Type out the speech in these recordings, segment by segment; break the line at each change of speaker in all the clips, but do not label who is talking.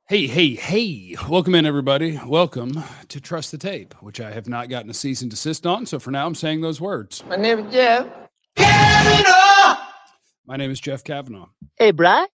Hey, hey, hey. Welcome in, everybody. Welcome to Trust the Tape, which I have not gotten a cease and desist on. So for now, I'm saying those words.
My name is Jeff.
My name is Jeff Kavanaugh.
Hey, Brian.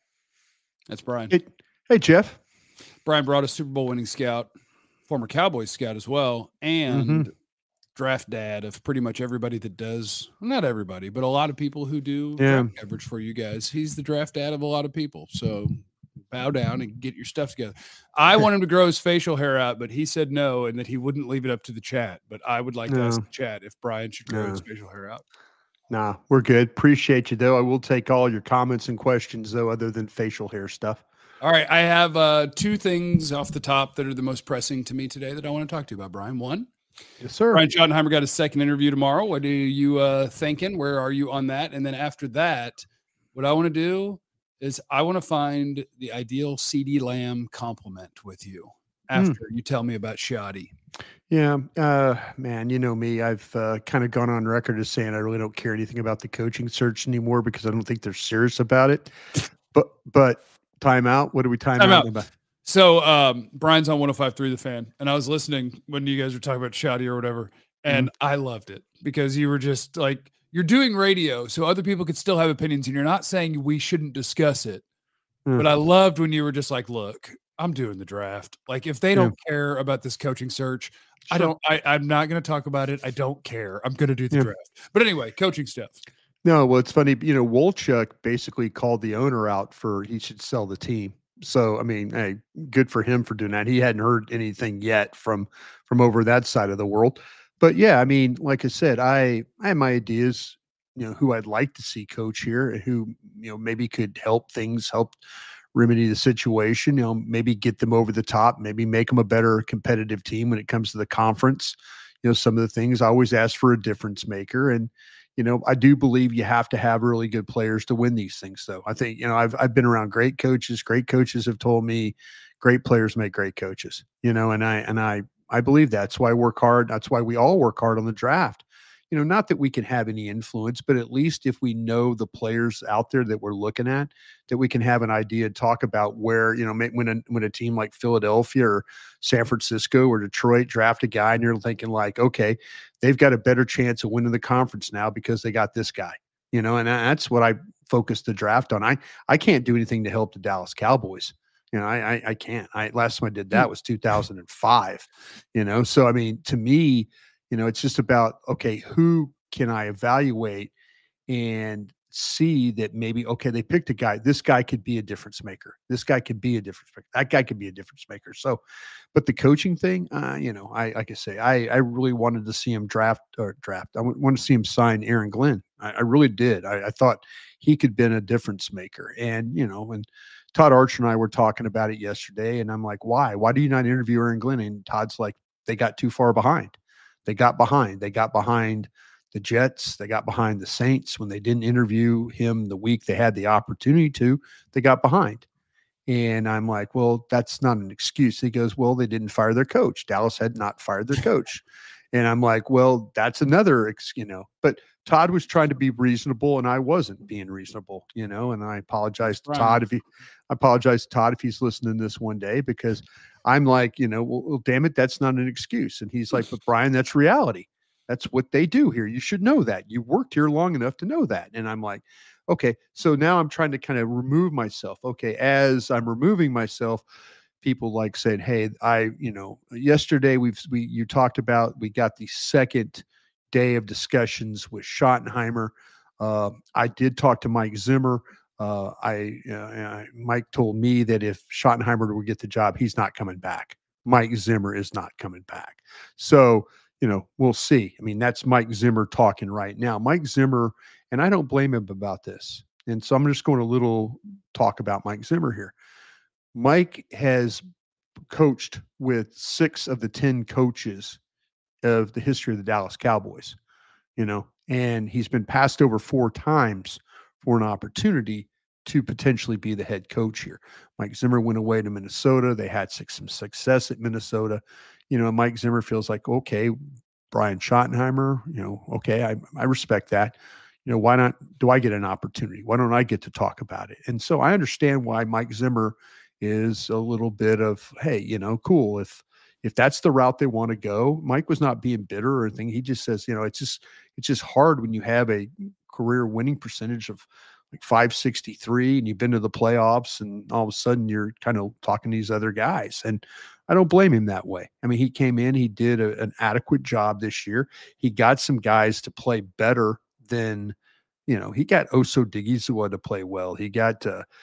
That's Brian.
Hey, Jeff.
Brian brought a Super Bowl winning scout, former Cowboys scout as well, and draft dad of pretty much everybody that does, not everybody, but a lot of people who do draft coverage for you guys. He's the draft dad of a lot of people. So bow down and get your stuff together. I want him to grow his facial hair out, but he said no, and that he wouldn't leave it up to the chat. But I would like to ask the chat if Brian should grow his facial hair out.
Nah, we're good. Appreciate you, though. I will take all your comments and questions, though, other than facial hair stuff.
All right. I have two things off the top that are the most pressing to me today that I want to talk to you about, Brian. One,
yes, sir.
Brian Schottenheimer got a second interview tomorrow. What are you thinking? Where are you on that? And then after that, what I want to do is I want to find the ideal CeeDee Lamb compliment with you after you tell me about Shoddy.
Yeah, man, you know me. I've kind of gone on record as saying I really don't care anything about the coaching search anymore because I don't think they're serious about it. But time out. What are we time out about?
So Brian's on 105.3 The Fan, and I was listening when you guys were talking about Shoddy or whatever, and I loved it because you were just like, you're doing radio, so other people could still have opinions, and you're not saying we shouldn't discuss it. But I loved when you were just like, look, I'm doing the draft. Like, if they don't care about this coaching search, I'm not going to talk about it. I don't care. I'm going to do the draft. But anyway, coaching stuff.
No, well, it's funny. You know, Wolchuk basically called the owner out for he should sell the team. So, I mean, hey, good for him for doing that. He hadn't heard anything yet from over that side of the world. But yeah, I mean, like I said, I have my ideas, you know, who I'd like to see coach here, who, you know, maybe could help remedy the situation, you know, maybe get them over the top, maybe make them a better competitive team when it comes to the conference. You know, some of the things I always ask for a difference maker. And, you know, I do believe you have to have really good players to win these things, though. I think, you know, I've been around great coaches. Great coaches have told me great players make great coaches, you know, and I believe that's why I work hard. That's why we all work hard on the draft. You know, not that we can have any influence, but at least if we know the players out there that we're looking at, that we can have an idea, talk about where, you know, when a team like Philadelphia or San Francisco or Detroit draft a guy and you're thinking like, okay, they've got a better chance of winning the conference now because they got this guy, you know, and that's what I focused the draft on. I can't do anything to help the Dallas Cowboys. You know, I can't. Last time I did that was 2005, you know? So, I mean, to me, you know, it's just about, okay, who can I evaluate and see that maybe, okay, they picked a guy. This guy could be a difference maker. This guy could be a difference maker. That guy could be a difference maker. So, but the coaching thing, you know, like I say, I really wanted to see him draft. I wanted to see him sign Aaron Glenn. I really did. I thought he could have been a difference maker. And, you know, and Todd Archer and I were talking about it yesterday, and I'm like, why? Why do you not interview Aaron Glenn? And Todd's like, they got too far behind. They got behind the Jets. They got behind the Saints when they didn't interview him the week they had the opportunity to. They got behind. And I'm like, well, that's not an excuse. He goes, well, they didn't fire their coach. Dallas had not fired their coach. And I'm like, well, that's another, you know, but Todd was trying to be reasonable and I wasn't being reasonable, you know, and I apologize to Todd if he's listening to this one day, because I'm like, you know, well, damn it, that's not an excuse. And he's like, but Brian, that's reality. That's what they do here. You should know that. You worked here long enough to know that. And I'm like, okay, so now I'm trying to kind of remove myself. Okay, as I'm removing myself, people like saying, hey, you know, yesterday you talked about, we got the second day of discussions with Schottenheimer. I did talk to Mike Zimmer. Mike told me that if Schottenheimer would get the job, he's not coming back. Mike Zimmer is not coming back. So, you know, we'll see. I mean, that's Mike Zimmer talking right now. Mike Zimmer, and I don't blame him about this. And so I'm just going a little talk about Mike Zimmer here. Mike has coached with 6 of the 10 coaches of the history of the Dallas Cowboys, you know, and he's been passed over 4 times for an opportunity to potentially be the head coach here. Mike Zimmer went away to Minnesota. They had some success at Minnesota. You know, Mike Zimmer feels like, okay, Brian Schottenheimer, you know, okay, I respect that. You know, why not? Do I get an opportunity? Why don't I get to talk about it? And so I understand why Mike Zimmer is a little bit of, hey, cool. If that's the route they want to go, Mike was not being bitter or anything. He just says, it's just hard when you have a career winning percentage of like 563 and you've been to the playoffs and all of a sudden you're kind of talking to these other guys. And I don't blame him that way. I mean, he came in, he did an adequate job this year. He got some guys to play better than, he got Oso Digizua to play well. He got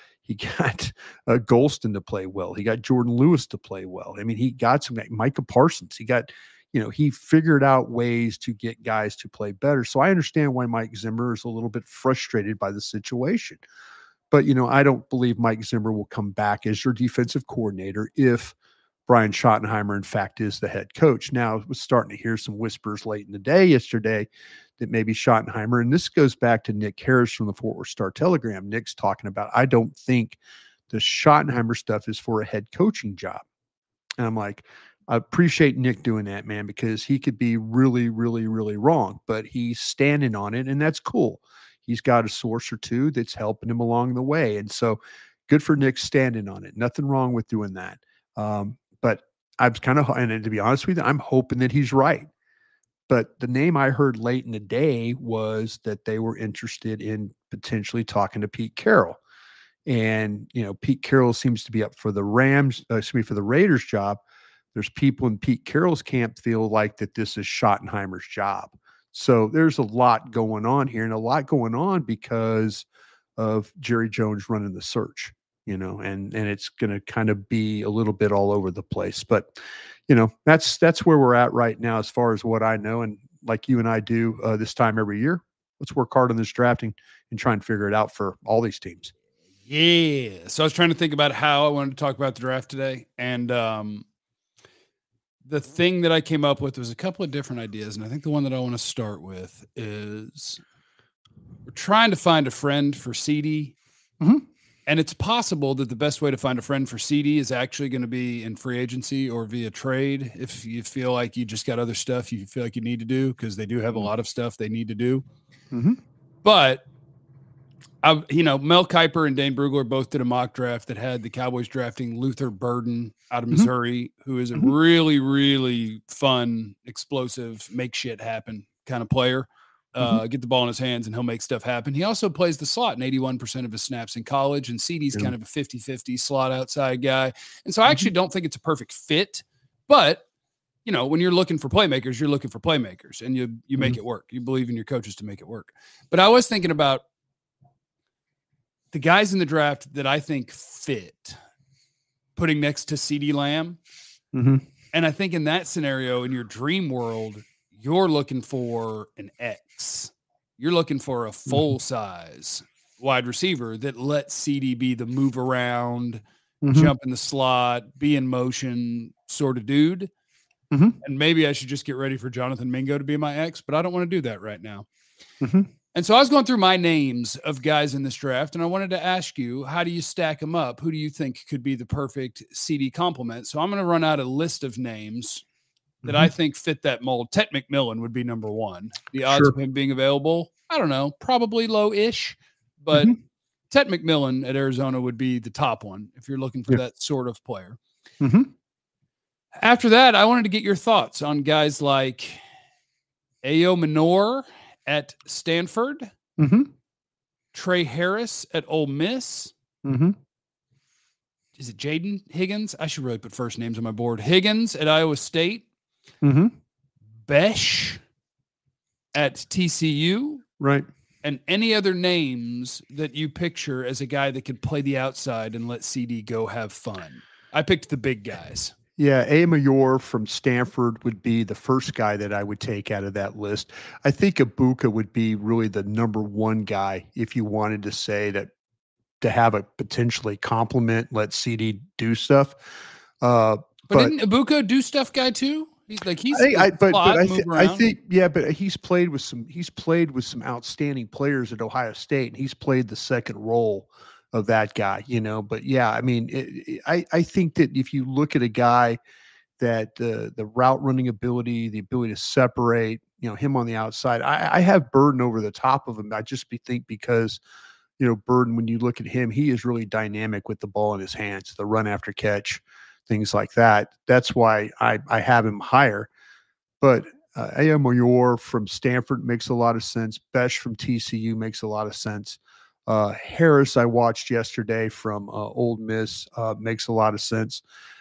Golston to play well. He got Jordan Lewis to play well. I mean, he got some Micah Parsons. He got, he figured out ways to get guys to play better. So I understand why Mike Zimmer is a little bit frustrated by the situation. But, I don't believe Mike Zimmer will come back as your defensive coordinator if Brian Schottenheimer, in fact, is the head coach. Now, I was starting to hear some whispers late in the day yesterday that maybe Schottenheimer, and this goes back to Nick Harris from the Fort Worth Star-Telegram. Nick's talking about, I don't think the Schottenheimer stuff is for a head coaching job. And I'm like, I appreciate Nick doing that, man, because he could be really, really, really wrong, but he's standing on it, and that's cool. He's got a source or two that's helping him along the way. And so good for Nick standing on it. Nothing wrong with doing that. But I was kind of, and to be honest with you, I'm hoping that he's right. But the name I heard late in the day was that they were interested in potentially talking to Pete Carroll. And, Pete Carroll seems to be up for the for the Raiders job. There's people in Pete Carroll's camp feel like that this is Schottenheimer's job. So there's a lot going on here, and a lot going on because of Jerry Jones running the search, and it's going to kind of be a little bit all over the place. But, that's where we're at right now as far as what I know. And like you and I do this time every year, let's work hard on this drafting and try and figure it out for all these teams.
Yeah. So I was trying to think about how I wanted to talk about the draft today. And the thing that I came up with was a couple of different ideas. And I think the one that I want to start with is we're trying to find a friend for CD.
Mm-hmm.
And it's possible that the best way to find a friend for CD is actually going to be in free agency or via trade. If you feel like you just got other stuff you feel like you need to do, because they do have a lot of stuff they need to do.
Mm-hmm.
But Mel Kiper and Dane Brugler both did a mock draft that had the Cowboys drafting Luther Burden out of Missouri, who is a really, really fun, explosive, make shit happen kind of player. Get the ball in his hands and he'll make stuff happen. He also plays the slot in 81% of his snaps in college, and CD's kind of a 50-50 slot outside guy. And so I actually don't think it's a perfect fit, but when you're looking for playmakers, you're looking for playmakers, and you make it work. You believe in your coaches to make it work. But I was thinking about the guys in the draft that I think fit, putting next to CeeDee Lamb.
Mm-hmm.
And I think in that scenario, in your dream world, you're looking for an X. You're looking for a full-size wide receiver that lets CD be the move around, jump in the slot, be in motion sort of dude.
Mm-hmm.
And maybe I should just get ready for Jonathan Mingo to be my X, but I don't want to do that right now.
Mm-hmm.
And so I was going through my names of guys in this draft, and I wanted to ask you, how do you stack them up? Who do you think could be the perfect CD complement? So I'm going to run out a list of names that I think fit that mold. Ted McMillan would be number one. The odds of him being available, I don't know, probably low-ish, but Ted McMillan at Arizona would be the top one if you're looking for that sort of player. After that, I wanted to get your thoughts on guys like Ayo Minor at Stanford, Trey Harris at Ole Miss. Is it Jaden Higgins? I should really put first names on my board. Higgins at Iowa State. Besh at TCU.
Right.
And any other names that you picture as a guy that could play the outside and let CD go have fun. I picked the big guys.
Yeah, A. Mayor from Stanford would be the first guy that I would take out of that list. I think Ibuka would be really the number one guy if you wanted to say that, to have a potentially complement, let CD do stuff.
But didn't Ibuka do stuff guy too? But I think he's played with some outstanding players at Ohio State, and he's played the second role of that guy, but yeah, I mean, I think that if you look at a guy that the route running ability, the ability to separate, him on the outside, I have Burden over the top of him. I just think because
Burden, when you look at him, he is really dynamic with the ball in his hands, the run after catch, things like that. That's why I have him higher. But A.M. Mayor from Stanford makes a lot of sense. Besh from TCU makes a lot of sense. Harris, I watched yesterday from Ole Miss, makes a lot of sense.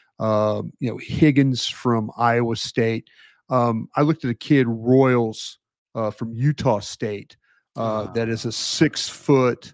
Higgins from Iowa State. I looked at a kid, Royals, from Utah State, that is a 6 foot,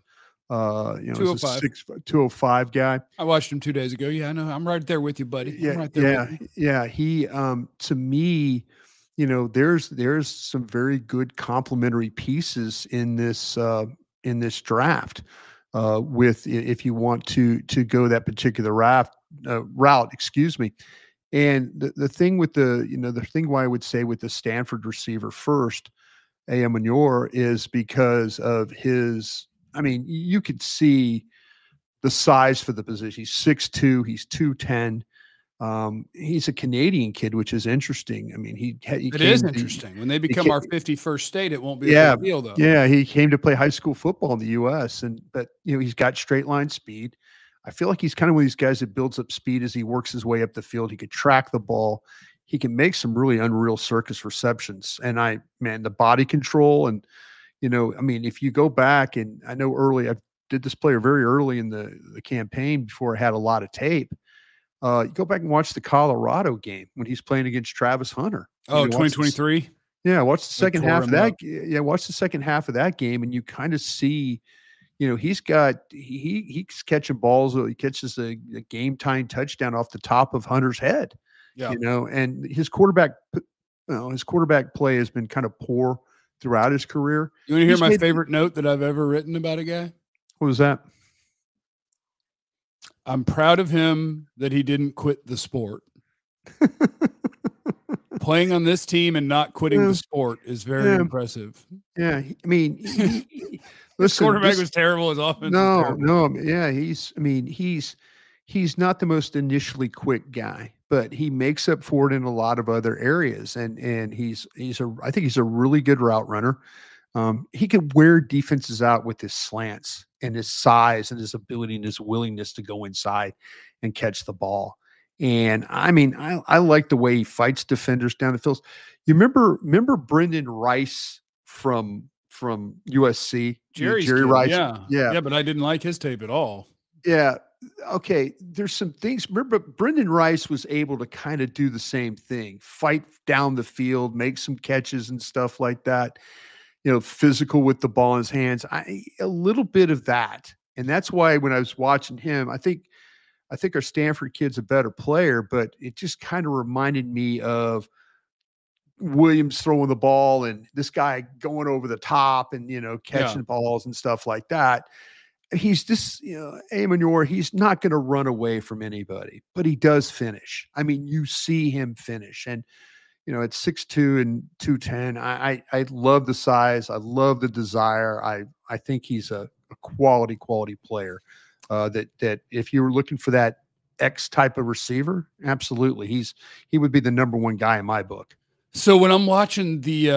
205.
205 guy.
I watched him 2 days ago. Yeah, I know. I'm right there with you, buddy. I'm right there with you.
Yeah. He, to me, there's some very good complementary pieces in this draft. With if you want to go that particular route, excuse me. And the thing with the thing why I would say with the Stanford receiver first, A.M. Mayor, is because of his. I mean, you could see the size for the position. He's 6'2", he's 210. He's a Canadian kid, which is interesting. I mean,
it is interesting. When they become our 51st state, it won't be a big deal, though.
Yeah, he came to play high school football in the U.S., but he's got straight line speed. I feel like he's kind of one of these guys that builds up speed as he works his way up the field. He could track the ball. He can make some really unreal circus receptions. And the body control and, if you go back, and I know I did this player very early in the campaign before I had a lot of tape. You go back and watch the Colorado game when he's playing against Travis Hunter.
Oh, 2023?
Yeah, watch the second half of that. Yeah, watch the second half of that game, and you kind of see, he's catching balls. He catches a game time touchdown off the top of Hunter's head.
Yeah,
and his quarterback play has been kind of poor throughout his career.
You want to hear my favorite note that I've ever written about a guy?
What was that?
I'm proud of him that he didn't quit the sport. Playing on this team and not quitting the sport is very impressive.
Yeah, I mean, listen,
quarterback was terrible. His offense was terrible.
No, yeah, he's not the most initially quick guy, but he makes up for it in a lot of other areas, and I think he's a really good route runner. He could wear defenses out with his slants and his size and his ability and his willingness to go inside and catch the ball. And I mean, I like the way he fights defenders down the field. You remember Brendan Rice from USC?
Jerry Rice. Yeah, but I didn't like his tape at all.
Yeah. Okay. There's some things. Remember, Brendan Rice was able to kind of do the same thing, fight down the field, make some catches and stuff like that. Physical with the ball in his hands. A little bit of that. And that's why when I was watching him, I think our Stanford kid's a better player, but it just kind of reminded me of Williams throwing the ball and this guy going over the top and, catching balls and stuff like that. He's just, A.M. Mayor, he's not going to run away from anybody, but he does finish. I mean, you see him finish. And, at 6'2" and 210, I love the size. I love the desire. I think he's a quality player. That if you were looking for that X type of receiver, absolutely, he would be the number one guy in my book.
So when I'm watching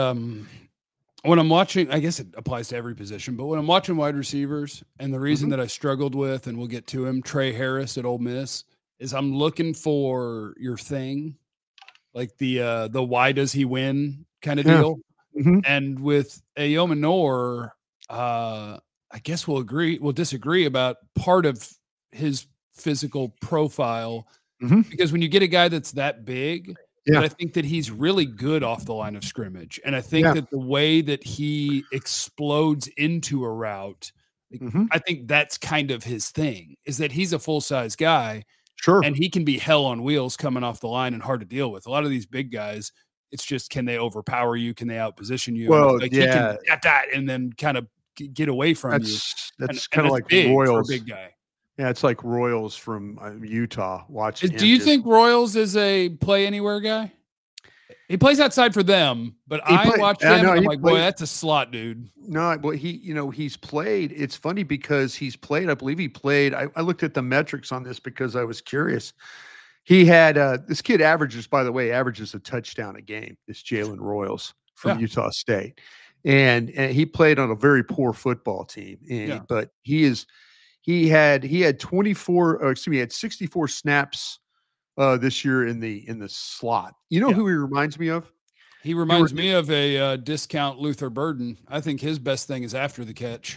I guess it applies to every position, but when I'm watching wide receivers, and the reason that I struggled with, and we'll get to him, Trey Harris at Ole Miss, is I'm looking for your thing, like the why does he win kind of deal.
Mm-hmm.
And with A.M. Mayor, I guess we'll disagree about part of his physical profile, because when you get a guy that's that big, but I think that he's really good off the line of scrimmage. And I think that the way that he explodes into a route, I think that's kind of his thing, is that he's a full-size guy.
Sure.
And he can be hell on wheels coming off the line and hard to deal with. A lot of these big guys, it's just, can they overpower you? Can they outposition you?
Well,
he can get that and then kind of get away from you.
That's kind of like Royals.
For a big guy.
Yeah, it's like Royals from Utah.
Do you think Royals is a play anywhere guy? He plays outside for them, but I watch him. I'm like, boy, that's a slot dude.
No, but he's played. It's funny because he's played. I believe he played. I looked at the metrics on this because I was curious. He had this kid averages a touchdown a game. This Jalen Royals from Utah State. and he played on a very poor football team. But he had 24, or excuse me, he had 64 snaps this year in the slot. You know who he reminds me of?
He reminds me of a discount Luther Burden. I think his best thing is after the catch.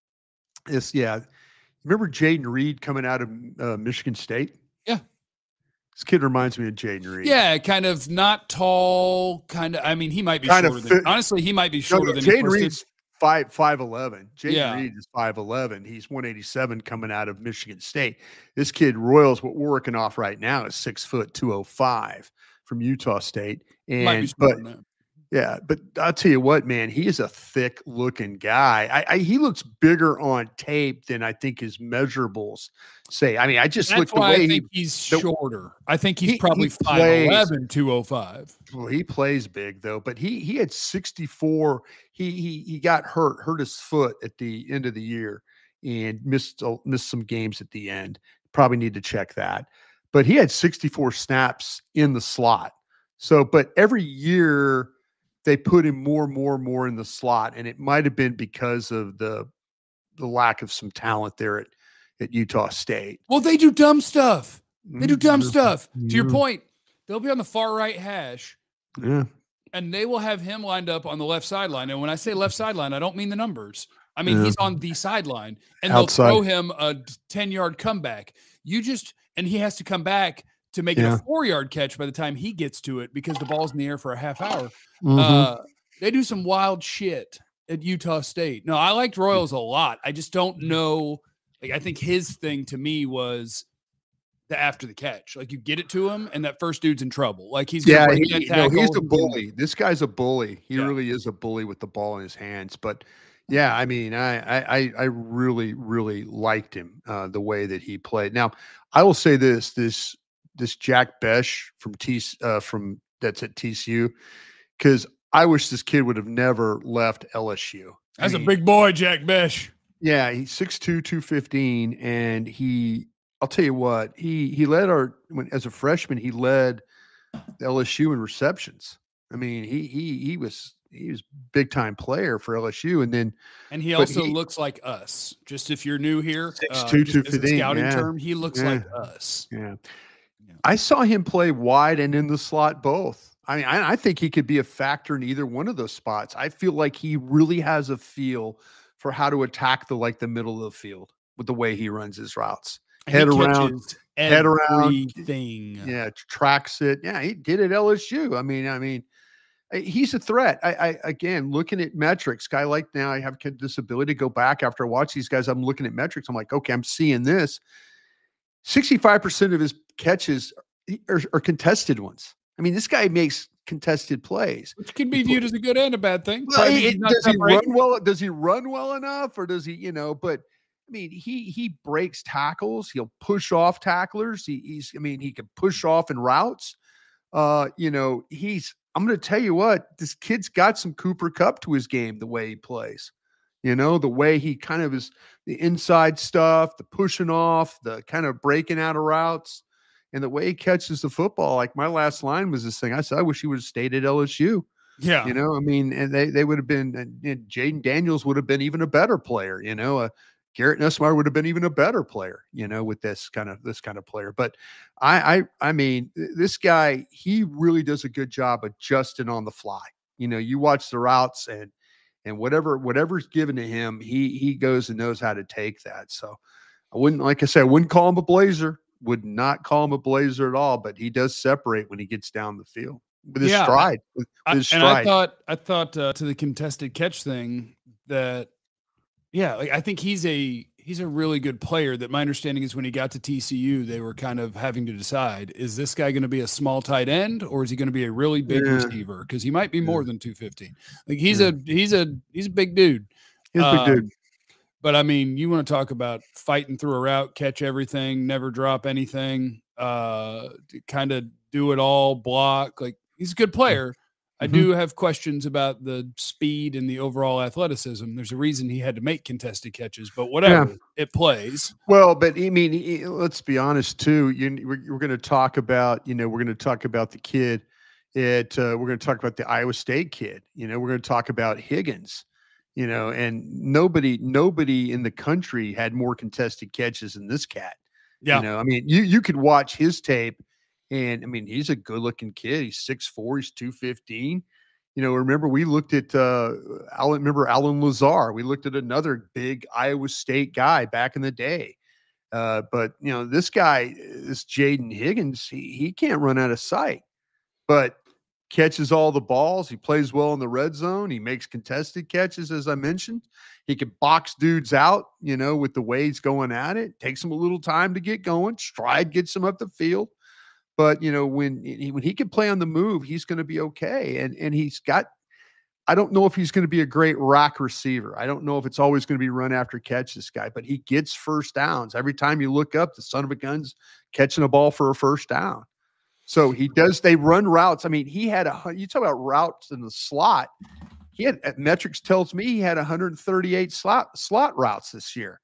Remember Jaden Reed coming out of Michigan State?
Yeah.
This kid reminds me of Jaden Reed.
Yeah, kind of not tall, kind of. I mean, he might be honestly, he might be shorter than
Jaden Reed's 5'11". Jaden Reed is 5'11". He's 187 coming out of Michigan State. This kid Royals, what we're working off right now, is 6 foot 205 from Utah State. But I'll tell you what, man, he is a thick looking guy. He looks bigger on tape than I think his measurables say. I mean, I just look the way
I think he's shorter. I think he's probably 5'11", 205.
Well, he plays big though, but he had 64. He got hurt his foot at the end of the year and missed some games at the end. Probably need to check that. But he had 64 snaps in the slot. So, but every year they put him more in the slot, and it might have been because of the lack of some talent there at Utah State.
Well, they do dumb stuff. To your point, they'll be on the far right hash.
Yeah.
And they will have him lined up on the left sideline. And when I say left sideline, I don't mean the numbers. I mean, he's on the sideline, and they'll throw him a 10-yard comeback. And he has to come back to make it a 4-yard catch by the time he gets to it because the ball's in the air for a half hour. They do some wild shit at Utah State. No, I liked Royals a lot. I just don't know. Like, I think his thing to me was the after the catch. Like, you get it to him, and that first dude's in trouble. Like, he's
he's a bully. This guy's a bully. He really is a bully with the ball in his hands. But yeah, I mean, I really, really liked him the way that he played. Now, I will say this Jack Besh from that's at TCU, because I wish this kid would have never left LSU.
That's a big boy, Jack Besh.
Yeah, he's 6'2", 215, and I'll tell you what, he led as a freshman, he led LSU in receptions. I mean, he was big time player for LSU, and he
also looks like us. Just if you're new here,
6'2", 215,
scouting term, he looks like us.
Yeah. I saw him play wide and in the slot both. I mean, I think he could be a factor in either one of those spots. I feel like he really has a feel for how to attack the middle of the field with the way he runs his routes. Head around,
everything.
Yeah, tracks it. Yeah, he did at LSU. I mean, he's a threat. I again, looking at metrics, guy like now, I have this ability to go back after I watch these guys. I'm looking at metrics. I'm like, okay, I'm seeing this. 65% of his catches are contested ones. I mean, this guy makes contested plays,
which can be viewed as a good and a bad thing.
Well, does he run well? Does he run well enough, or does he? But I mean, he breaks tackles. He'll push off tacklers. He can push off in routes. I'm going to tell you what, this kid's got some Cooper Kupp to his game. The way he plays, the way he kind of is, the inside stuff, the pushing off, the kind of breaking out of routes. And the way he catches the football, like my last line was this thing. I said, I wish he would have stayed at LSU.
Yeah.
And they would have been, Jaden Daniels would have been even a better player, Garrett Nussmeier would have been even a better player, with this kind of player. But I mean, this guy, he really does a good job adjusting on the fly. You watch the routes and whatever's given to him, he goes and knows how to take that. So I wouldn't call him a Blazer. Would not call him a Blazer at all, but he does separate when he gets down the field with his stride.
I thought to the contested catch thing that, I think he's a really good player. That my understanding is when he got to TCU, they were kind of having to decide, is this guy going to be a small tight end or is he going to be a really big receiver? Because he might be more than 215. Like he's a big dude.
He's a big dude.
But I mean, you want to talk about fighting through a route, catch everything, never drop anything, kind of do it all, block. Like he's a good player. I do have questions about the speed and the overall athleticism. There's a reason he had to make contested catches, but whatever, it plays.
Well, but I mean, let's be honest too. We're going to talk about, we're going to talk about the kid We're going to talk about the Iowa State kid. We're going to talk about Higgins. And nobody in the country had more contested catches than this cat.
Yeah.
I mean, you could watch his tape, and I mean, he's a good looking kid. He's 6'4", he's 215. Remember we looked at Alan Lazar. We looked at another big Iowa State guy back in the day. But this guy, this Jaden Higgins, he can't run out of sight, but catches all the balls. He plays well in the red zone. He makes contested catches, as I mentioned. He can box dudes out, with the way he's going at it. Takes him a little time to get going. Stride gets him up the field. But, when he can play on the move, he's going to be okay. And he's got – I don't know if he's going to be a great rock receiver. I don't know if it's always going to be run after catch, this guy. But he gets first downs. Every time you look up, the son of a gun's catching a ball for a first down. So they run routes. I mean, you talk about routes in the slot. Metrics tells me he had 138 slot routes this year.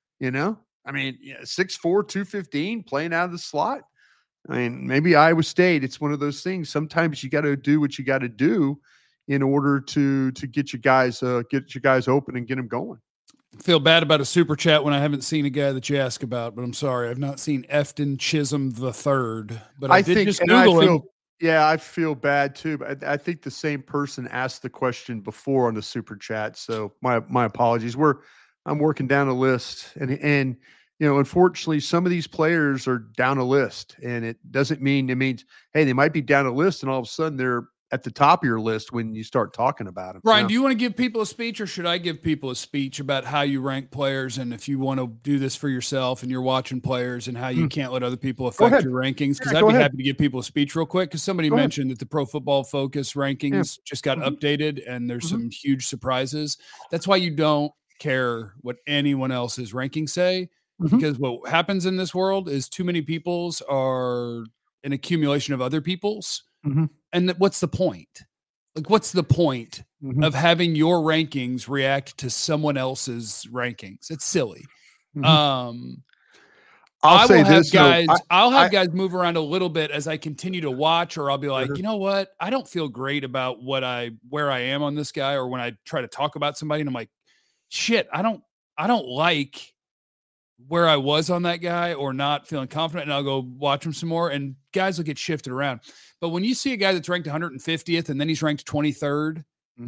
I mean, 6'4", 215 playing out of the slot. I mean, maybe Iowa State, it's one of those things. Sometimes you got to do what you got to do in order to get your guys open and get them going.
Feel bad about a super chat when I haven't seen a guy that you ask about, but I'm sorry. I've not seen Efton Chisholm III, but I did just Google him.
Yeah, I feel bad too. But I think the same person asked the question before on the super chat. So my apologies. I'm working down a list, and unfortunately, some of these players are down a list, and it means, hey, they might be down a list, and all of a sudden they're at the top of your list when you start talking about them.
Brian, do you want to give people a speech, or should I give people a speech about how you rank players? And if you want to do this for yourself and you're watching players and how you can't let other people affect your rankings, because I'd be happy to give people a speech real quick. Because somebody mentioned that the Pro Football Focus rankings just got updated, and there's some huge surprises. That's why you don't care what anyone else's rankings say, because what happens in this world is too many people's are an accumulation of other people's. And what's the point? Like, what's the point of having your rankings react to someone else's rankings? It's silly. I'll have guys move around a little bit as I continue to watch, or I'll be like, you know what? I don't feel great about where I am on this guy, or when I try to talk about somebody and I'm like, shit, I don't like where I was on that guy, or not feeling confident, and I'll go watch him some more, and guys will get shifted around. But when you see a guy that's ranked 150th and then he's ranked 23rd,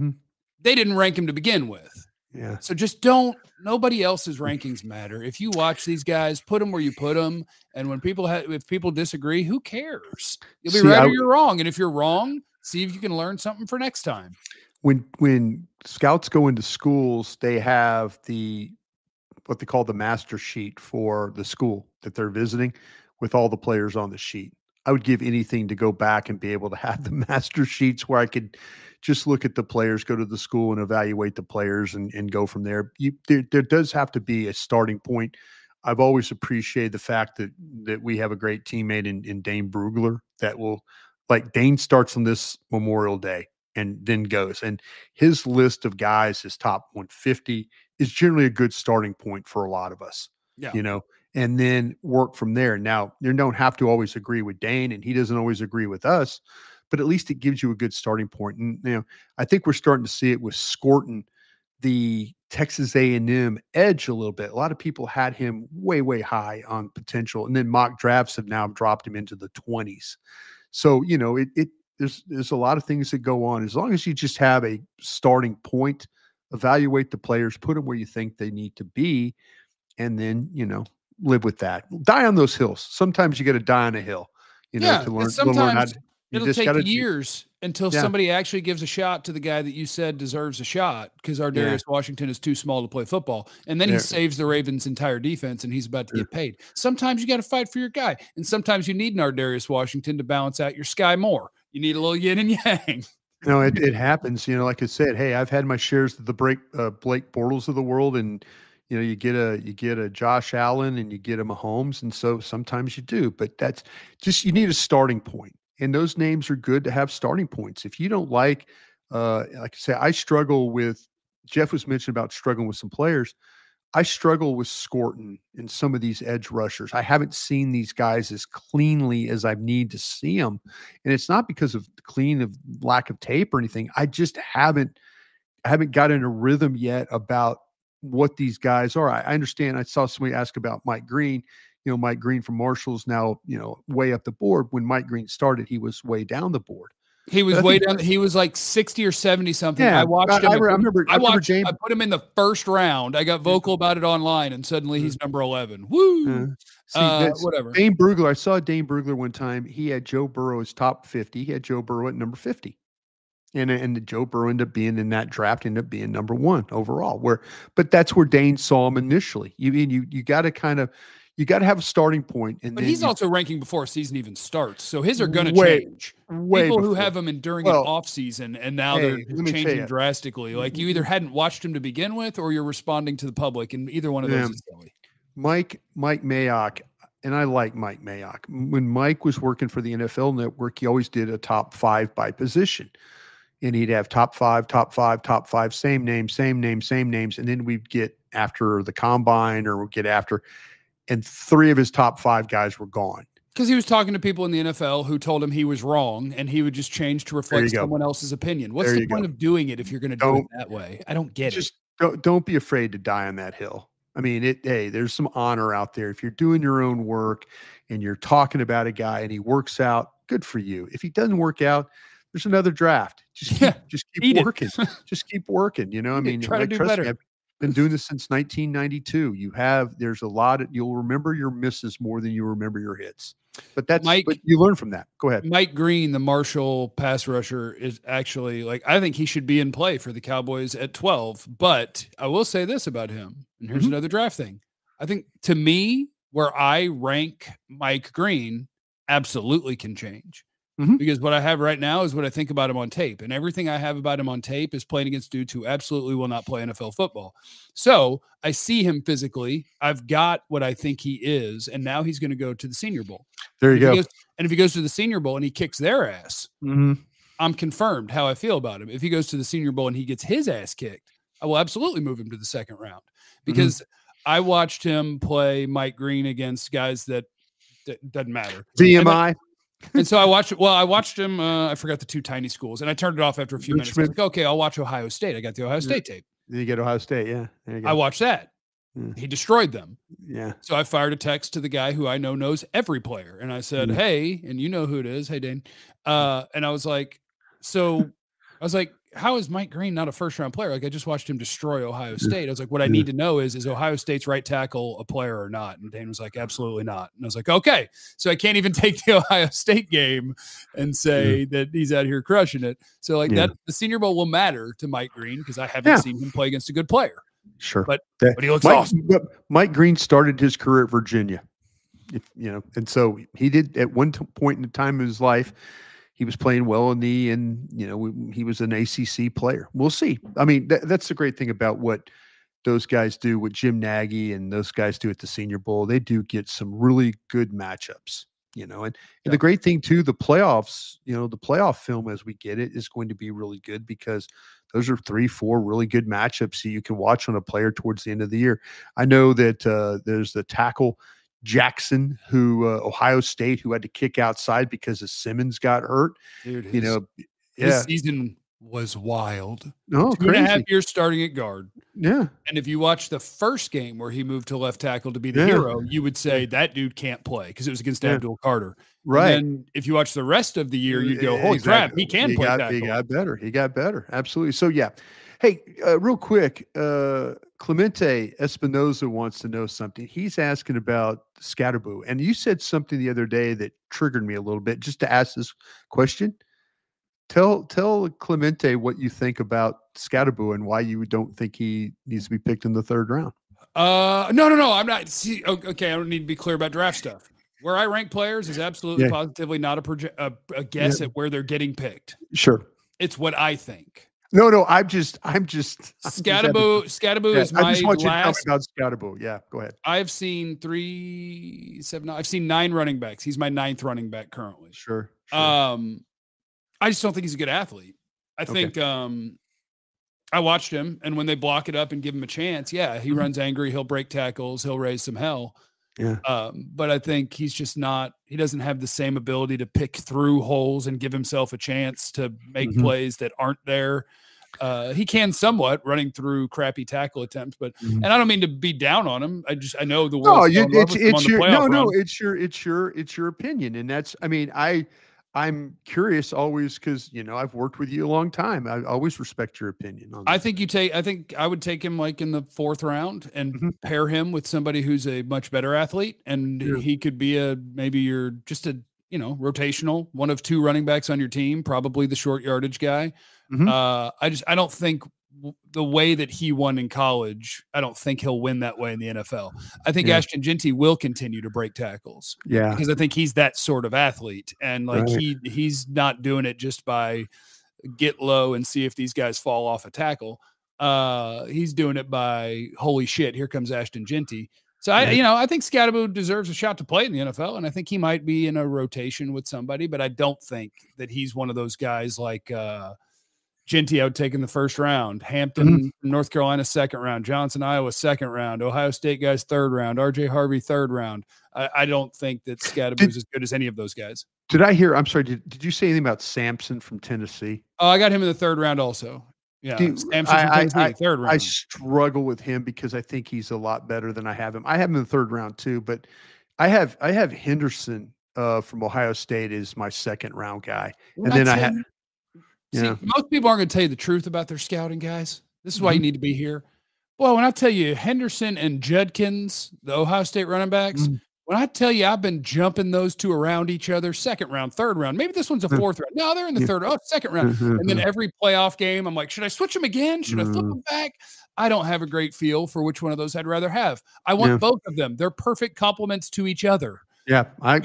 they didn't rank him to begin with.
Yeah.
So just nobody else's rankings matter. If you watch these guys, put them where you put them. And when if people disagree, who cares? You'll be right or you're wrong. And if you're wrong, see if you can learn something for next time.
When scouts go into schools, they have what they call the master sheet for the school that they're visiting, with all the players on the sheet. I would give anything to go back and be able to have the master sheets where I could just look at the players, go to the school and evaluate the players and go from there. There does have to be a starting point. I've always appreciated the fact that we have a great teammate in Dane Brugler that will, like, Dane starts on this Memorial Day and then goes. And his list of guys, his top 150, is generally a good starting point for a lot of us.
Yeah.
And then work from there. Now, you don't have to always agree with Dane, and he doesn't always agree with us, but at least it gives you a good starting point. And, I think we're starting to see it with Scorton, the Texas A&M edge a little bit. A lot of people had him way, way high on potential, and then mock drafts have now dropped him into the 20s. So, there's a lot of things that go on. As long as you just have a starting point, evaluate the players, put them where you think they need to be, and then, live with that. Die on those hills. Sometimes you got to die on a hill, to learn.
Sometimes it'll take years until somebody actually gives a shot to the guy that you said deserves a shot, because Ardarius Washington is too small to play football. And then he saves the Ravens' entire defense, and he's about to get paid. Sometimes you got to fight for your guy. And sometimes you need an Ardarius Washington to balance out your Sky Moore. You need a little yin and yang.
No, it happens. Like I said, hey, I've had my shares of the Blake Bortles of the world, and you get a Josh Allen and you get a Mahomes, and so sometimes you do, but that's just, you need a starting point, and those names are good to have starting points. If you don't like I say, I struggle with, Jeff was mentioning about struggling with some players. I struggle with Scorton and some of these edge rushers. I haven't seen these guys as cleanly as I need to see them. And it's not because of lack of tape or anything. I haven't gotten a rhythm yet about what these guys are. I understand. I saw somebody ask about Mike Green. Mike Green from Marshall's now, way up the board. When Mike Green started, he was way down the board.
He was way down. He was like 60 or 70 something. Yeah, I watched him. I put him in the first round. I got vocal about it online, and suddenly he's number 11. Woo! Whatever.
Dane Brugler. I saw Dane Brugler one time. He had Joe Burrow as top 50. He had Joe Burrow at number 50. And Joe Burrow ended up being in that draft, ended up being number 1 overall. But that's where Dane saw him initially. You got to you got to have a starting point. But
he's also ranking before a season even starts. So his are going to change. People who have him during an off season and now they're changing drastically. Like you either hadn't watched him to begin with or you're responding to the public, and either one of those is silly.
Mike Mayock, and I like Mike Mayock. When Mike was working for the NFL Network, he always did a top 5 by position. And he'd have top 5, same names. And then we'd get after the combine or we'd get after, and 3 of his top 5 guys were gone.
Because he was talking to people in the NFL who told him he was wrong, and he would just change to reflect someone else's opinion. What's the point of doing it if you're going to do it that way? I don't get it.
Don't be afraid to die on that hill. I mean, there's some honor out there. If you're doing your own work and you're talking about a guy and he works out, good for you. If he doesn't work out, there's another draft. Just keep working. Just keep working. I mean,
try to do better.
I've been doing this since 1992. There's a lot you'll remember your misses more than you remember your hits. But but you learn from that. Go ahead.
Mike Green, the Marshall pass rusher, is actually I think he should be in play for the Cowboys at 12. But I will say this about him, and here's another draft thing. I think to me, where I rank Mike Green absolutely can change. Because what I have right now is what I think about him on tape. And everything I have about him on tape is playing against dudes who absolutely will not play NFL football. So I see him physically. I've got what I think he is. And now he's going to go to the Senior Bowl.
There you go.
And if he goes to the Senior Bowl and he kicks their ass, I'm confirmed how I feel about him. If he goes to the Senior Bowl and he gets his ass kicked, I will absolutely move him to the second round. Because I watched him play Mike Green against guys that doesn't matter.
VMI.
And so I watched him. I forgot the 2 tiny schools, and I turned it off after a few minutes. I was like, okay, I'll watch Ohio State. I got the Ohio State tape.
You get Ohio State, yeah. There you go.
I watched that. He destroyed them.
Yeah.
So I fired a text to the guy who I know knows every player, and I said, "Hey," and you know who it is. Hey, Dane. And I was like, how is Mike Green not a first-round player? I just watched him destroy Ohio State. I was like, what I need to know is Ohio State's right tackle a player or not? And Dane was like, absolutely not. And I was like, okay. So I can't even take the Ohio State game and say that he's out here crushing it. So that the Senior Bowl will matter to Mike Green because I haven't seen him play against a good player.
Sure.
But he looks awesome.
Mike Green started his career at Virginia, and so he did at one point in the time of his life. He was playing well he was an ACC player. We'll see. I mean, that's the great thing about what those guys do, what Jim Nagy and those guys do at the Senior Bowl. They do get some really good matchups, and the great thing too, the playoffs, the playoff film as we get it is going to be really good because those are 3-4 really good matchups that you can watch on a player towards the end of the year. I know that there's the tackle Jackson, who Ohio State, who had to kick outside because Simmons got hurt.
Dude, his season was wild.
No,
2.5 years starting at guard.
Yeah.
And if you watch the first game where he moved to left tackle to be the hero, you would say that dude can't play because it was against Abdul Carter.
Right.
And then if you watch the rest of the year, you'd go, holy crap, he can play tackle.
He got better. Absolutely. So, yeah. Hey, real quick, Clemente Espinoza wants to know something. He's asking about Scatterboo. And you said something the other day that triggered me a little bit just to ask this question. Tell Clemente what you think about Scatterboo and why you don't think he needs to be picked in the 3rd round.
No. I'm not. See, okay, I don't need to be clear about draft stuff. Where I rank players is absolutely positively not a guess at where they're getting picked.
Sure.
It's what I think.
No, I'm just
Scatterboo is my
I just want you
last.
to talk about Scatterboo. Yeah, go ahead.
I've seen 9 running backs. He's my 9th running back currently.
Sure.
I just don't think he's a good athlete. I think I watched him, and when they block it up and give him a chance, yeah, he runs angry. He'll break tackles. He'll raise some hell.
Yeah.
But I think he's just not. He doesn't have the same ability to pick through holes and give himself a chance to make plays that aren't there. He can somewhat running through crappy tackle attempts, but and I don't mean to be down on him. I know the world.
It's your opinion, and that's. I mean, I'm curious always because I've worked with you a long time. I always respect your opinion on that.
I think I would take him like in the 4th round and pair him with somebody who's a much better athlete, and he could be maybe you're just a rotational one of 2 running backs on your team, probably the short yardage guy. I don't think the way that he won in college, I don't think he'll win that way in the NFL. I think Ashton Jeanty will continue to break tackles.
Yeah.
Because I think he's that sort of athlete. And like he's not doing it just by get low and see if these guys fall off a tackle. He's doing it by holy shit, here comes Ashton Jeanty. So I think Scatterbo deserves a shot to play in the NFL, and I think he might be in a rotation with somebody, but I don't think that he's one of those guys like Jeanty, I would take in the 1st round. Hampton, North Carolina, 2nd round. Johnson, Iowa, 2nd round. Ohio State guys, 3rd round. RJ Harvey, 3rd round. I don't think that Scatterbo is as good as any of those guys.
Did I hear? I'm sorry. Did you say anything about Sampson from Tennessee?
Oh, I got him in the 3rd round also. Yeah, Sampson from Tennessee, 3rd round.
I struggle with him because I think he's a lot better than I have him. I have him in the 3rd round too, but I have Henderson from Ohio State is my 2nd round guy, and then I have.
See, most people aren't going to tell you the truth about their scouting, guys. This is why you need to be here. Well, when I tell you Henderson and Judkins, the Ohio State running backs, when I tell you I've been jumping those 2 around each other, 2nd round, 3rd round, maybe this one's a 4th round. No, they're in the 3rd, 2nd round. And then every playoff game, I'm like, should I switch them again? Should I flip them back? I don't have a great feel for which one of those I'd rather have. I want both of them. They're perfect complements to each other.
Yeah, I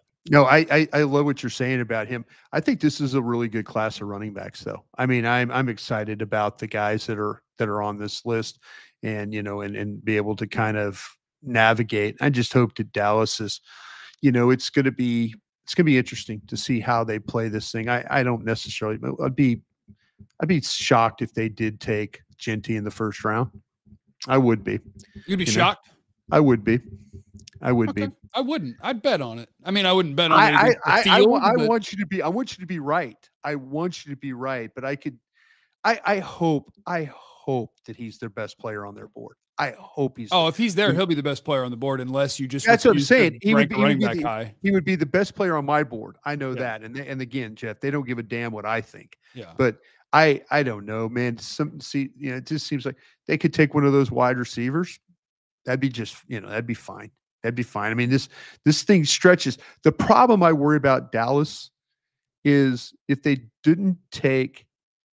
love what you're saying about him. I think this is a really good class of running backs, though. I mean, I'm excited about the guys that are on this list, and and be able to kind of navigate. I just hope that Dallas is, it's going to be interesting to see how they play this thing. I don't necessarily. I'd be shocked if they did take Jeanty in the 1st round. I would be.
You'd be shocked?
I would be. I would be.
I wouldn't. I'd bet on it. I mean, I wouldn't bet on it.
I want you to be. I want you to be right. I want you to be right. But I hope that he's their best player on their board. I hope he's.
Oh, if he's there, he'll be the best player on the board, unless you just.
That's what I'm saying. He would
be
the best player on my board. I know that. And again, Jeff, they don't give a damn what I think.
Yeah.
But I don't know, man. It just seems like they could take one of those wide receivers. That'd be just, that'd be fine. That'd be fine. I mean, this thing stretches. The problem I worry about Dallas is if they didn't take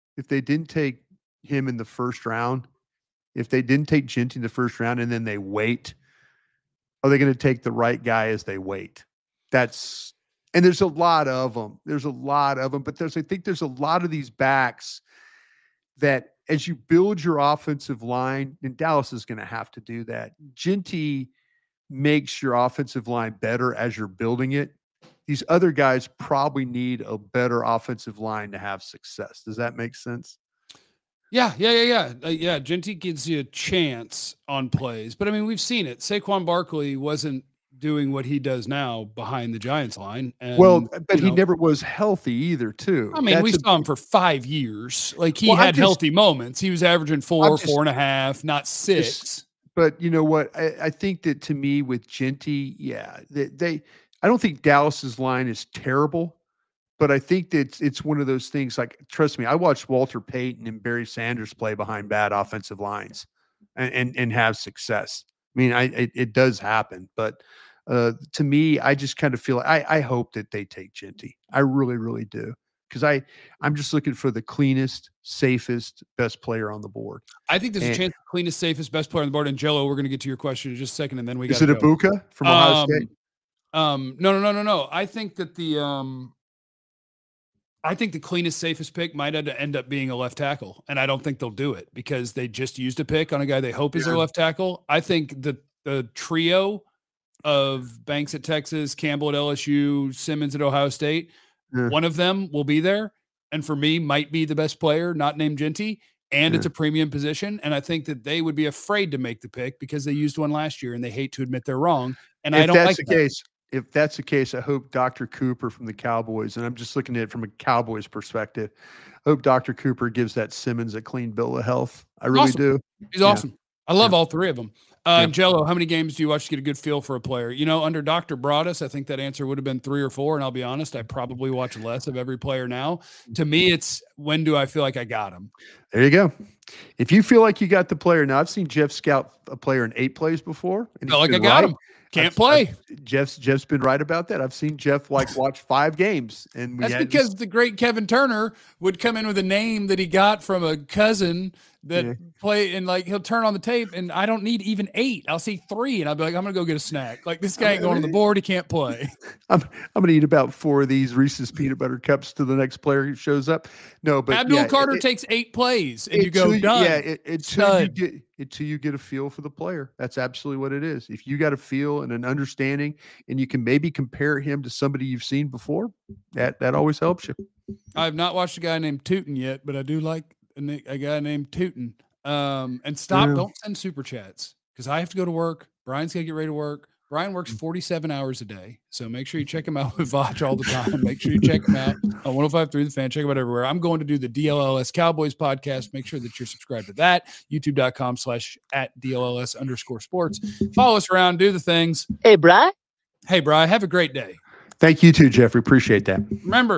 him in the 1st round, if they didn't take Jeanty in the 1st round and then they wait, are they going to take the right guy as they wait? And there's a lot of them. But I think there's a lot of these backs that as you build your offensive line, and Dallas is going to have to do that. Jeanty makes your offensive line better as you're building it. These other guys probably need a better offensive line to have success. Does that make sense?
Yeah. Jeanty gives you a chance on plays, but I mean, we've seen it. Saquon Barkley wasn't doing what he does now behind the Giants line. And,
but he never was healthy either, too.
I mean, we saw him for 5 years. Like he had healthy moments. He was averaging 4.5, not 6.
But you know what? I think that to me with Jeanty, I don't think Dallas's line is terrible, but I think that it's one of those things. Like, trust me, I watched Walter Payton and Barry Sanders play behind bad offensive lines and have success. I mean, it does happen, but to me, I just kind of feel like I hope that they take Jeanty. I really, really do. Because I'm just looking for the cleanest, safest, best player on the board.
I think there's a chance the cleanest, safest, best player on the board. And Jello, we're going to get to your question in just a second, and then we got.
Is it Ibuka from Ohio State?
No. I think that the cleanest, safest pick might end up being a left tackle, and I don't think they'll do it because they just used a pick on a guy they hope is their left tackle. I think the trio of Banks at Texas, Campbell at LSU, Simmons at Ohio State. One of them will be there, and for me, might be the best player, not named Jeanty. and it's a premium position. And I think that they would be afraid to make the pick because they used one last year and they hate to admit they're wrong. And I don't like that.
If that's the case, I hope Dr. Cooper from the Cowboys, and I'm just looking at it from a Cowboys perspective, I hope Dr. Cooper gives that Simmons a clean bill of health. I really do.
He's awesome. I love all three of them. Jello, how many games do you watch to get a good feel for a player? You know, under Dr. Broadus, I think that answer would have been 3 or 4. And I'll be honest, I probably watch less of every player now. To me, it's when do I feel like I got him?
There you go. If you feel like you got the player, now I've seen Jeff scout a player in 8 plays before.
And felt like I got him. Can't play.
Jeff's been right about that. I've seen Jeff watch 5 games, and
that's because the great Kevin Turner would come in with a name that he got from a cousin that play, and like he'll turn on the tape, and I don't need even 8. I'll see 3, and I'll be like, I'm gonna go get a snack. Like this guy ain't going on the board. He can't play.
I'm gonna eat about 4 of these Reese's peanut butter cups to the next player who shows up. No, but
Abdul Carter takes 8 plays, and you go done.
Yeah, until you get a feel for the player. That's absolutely what it is. If you got a feel and an understanding, and you can maybe compare him to somebody you've seen before, that always helps you.
I've not watched a guy named Tootin yet, but I do like a guy named Tootin. And don't send super chats because I have to go to work. Brian's got to get ready to work. Brian works 47 hours a day. So make sure you check him out with Vach all the time. Make sure you check him out on 105.3 The Fan. Check him out everywhere. I'm going to do the DLLS Cowboys podcast. Make sure that you're subscribed to that. YouTube.com/@DLLS_sports. Follow us around. Do the things.
Hey, Bri.
Hey, Bri. Have a great day.
Thank you too, Jeffrey. Appreciate that.
Remember,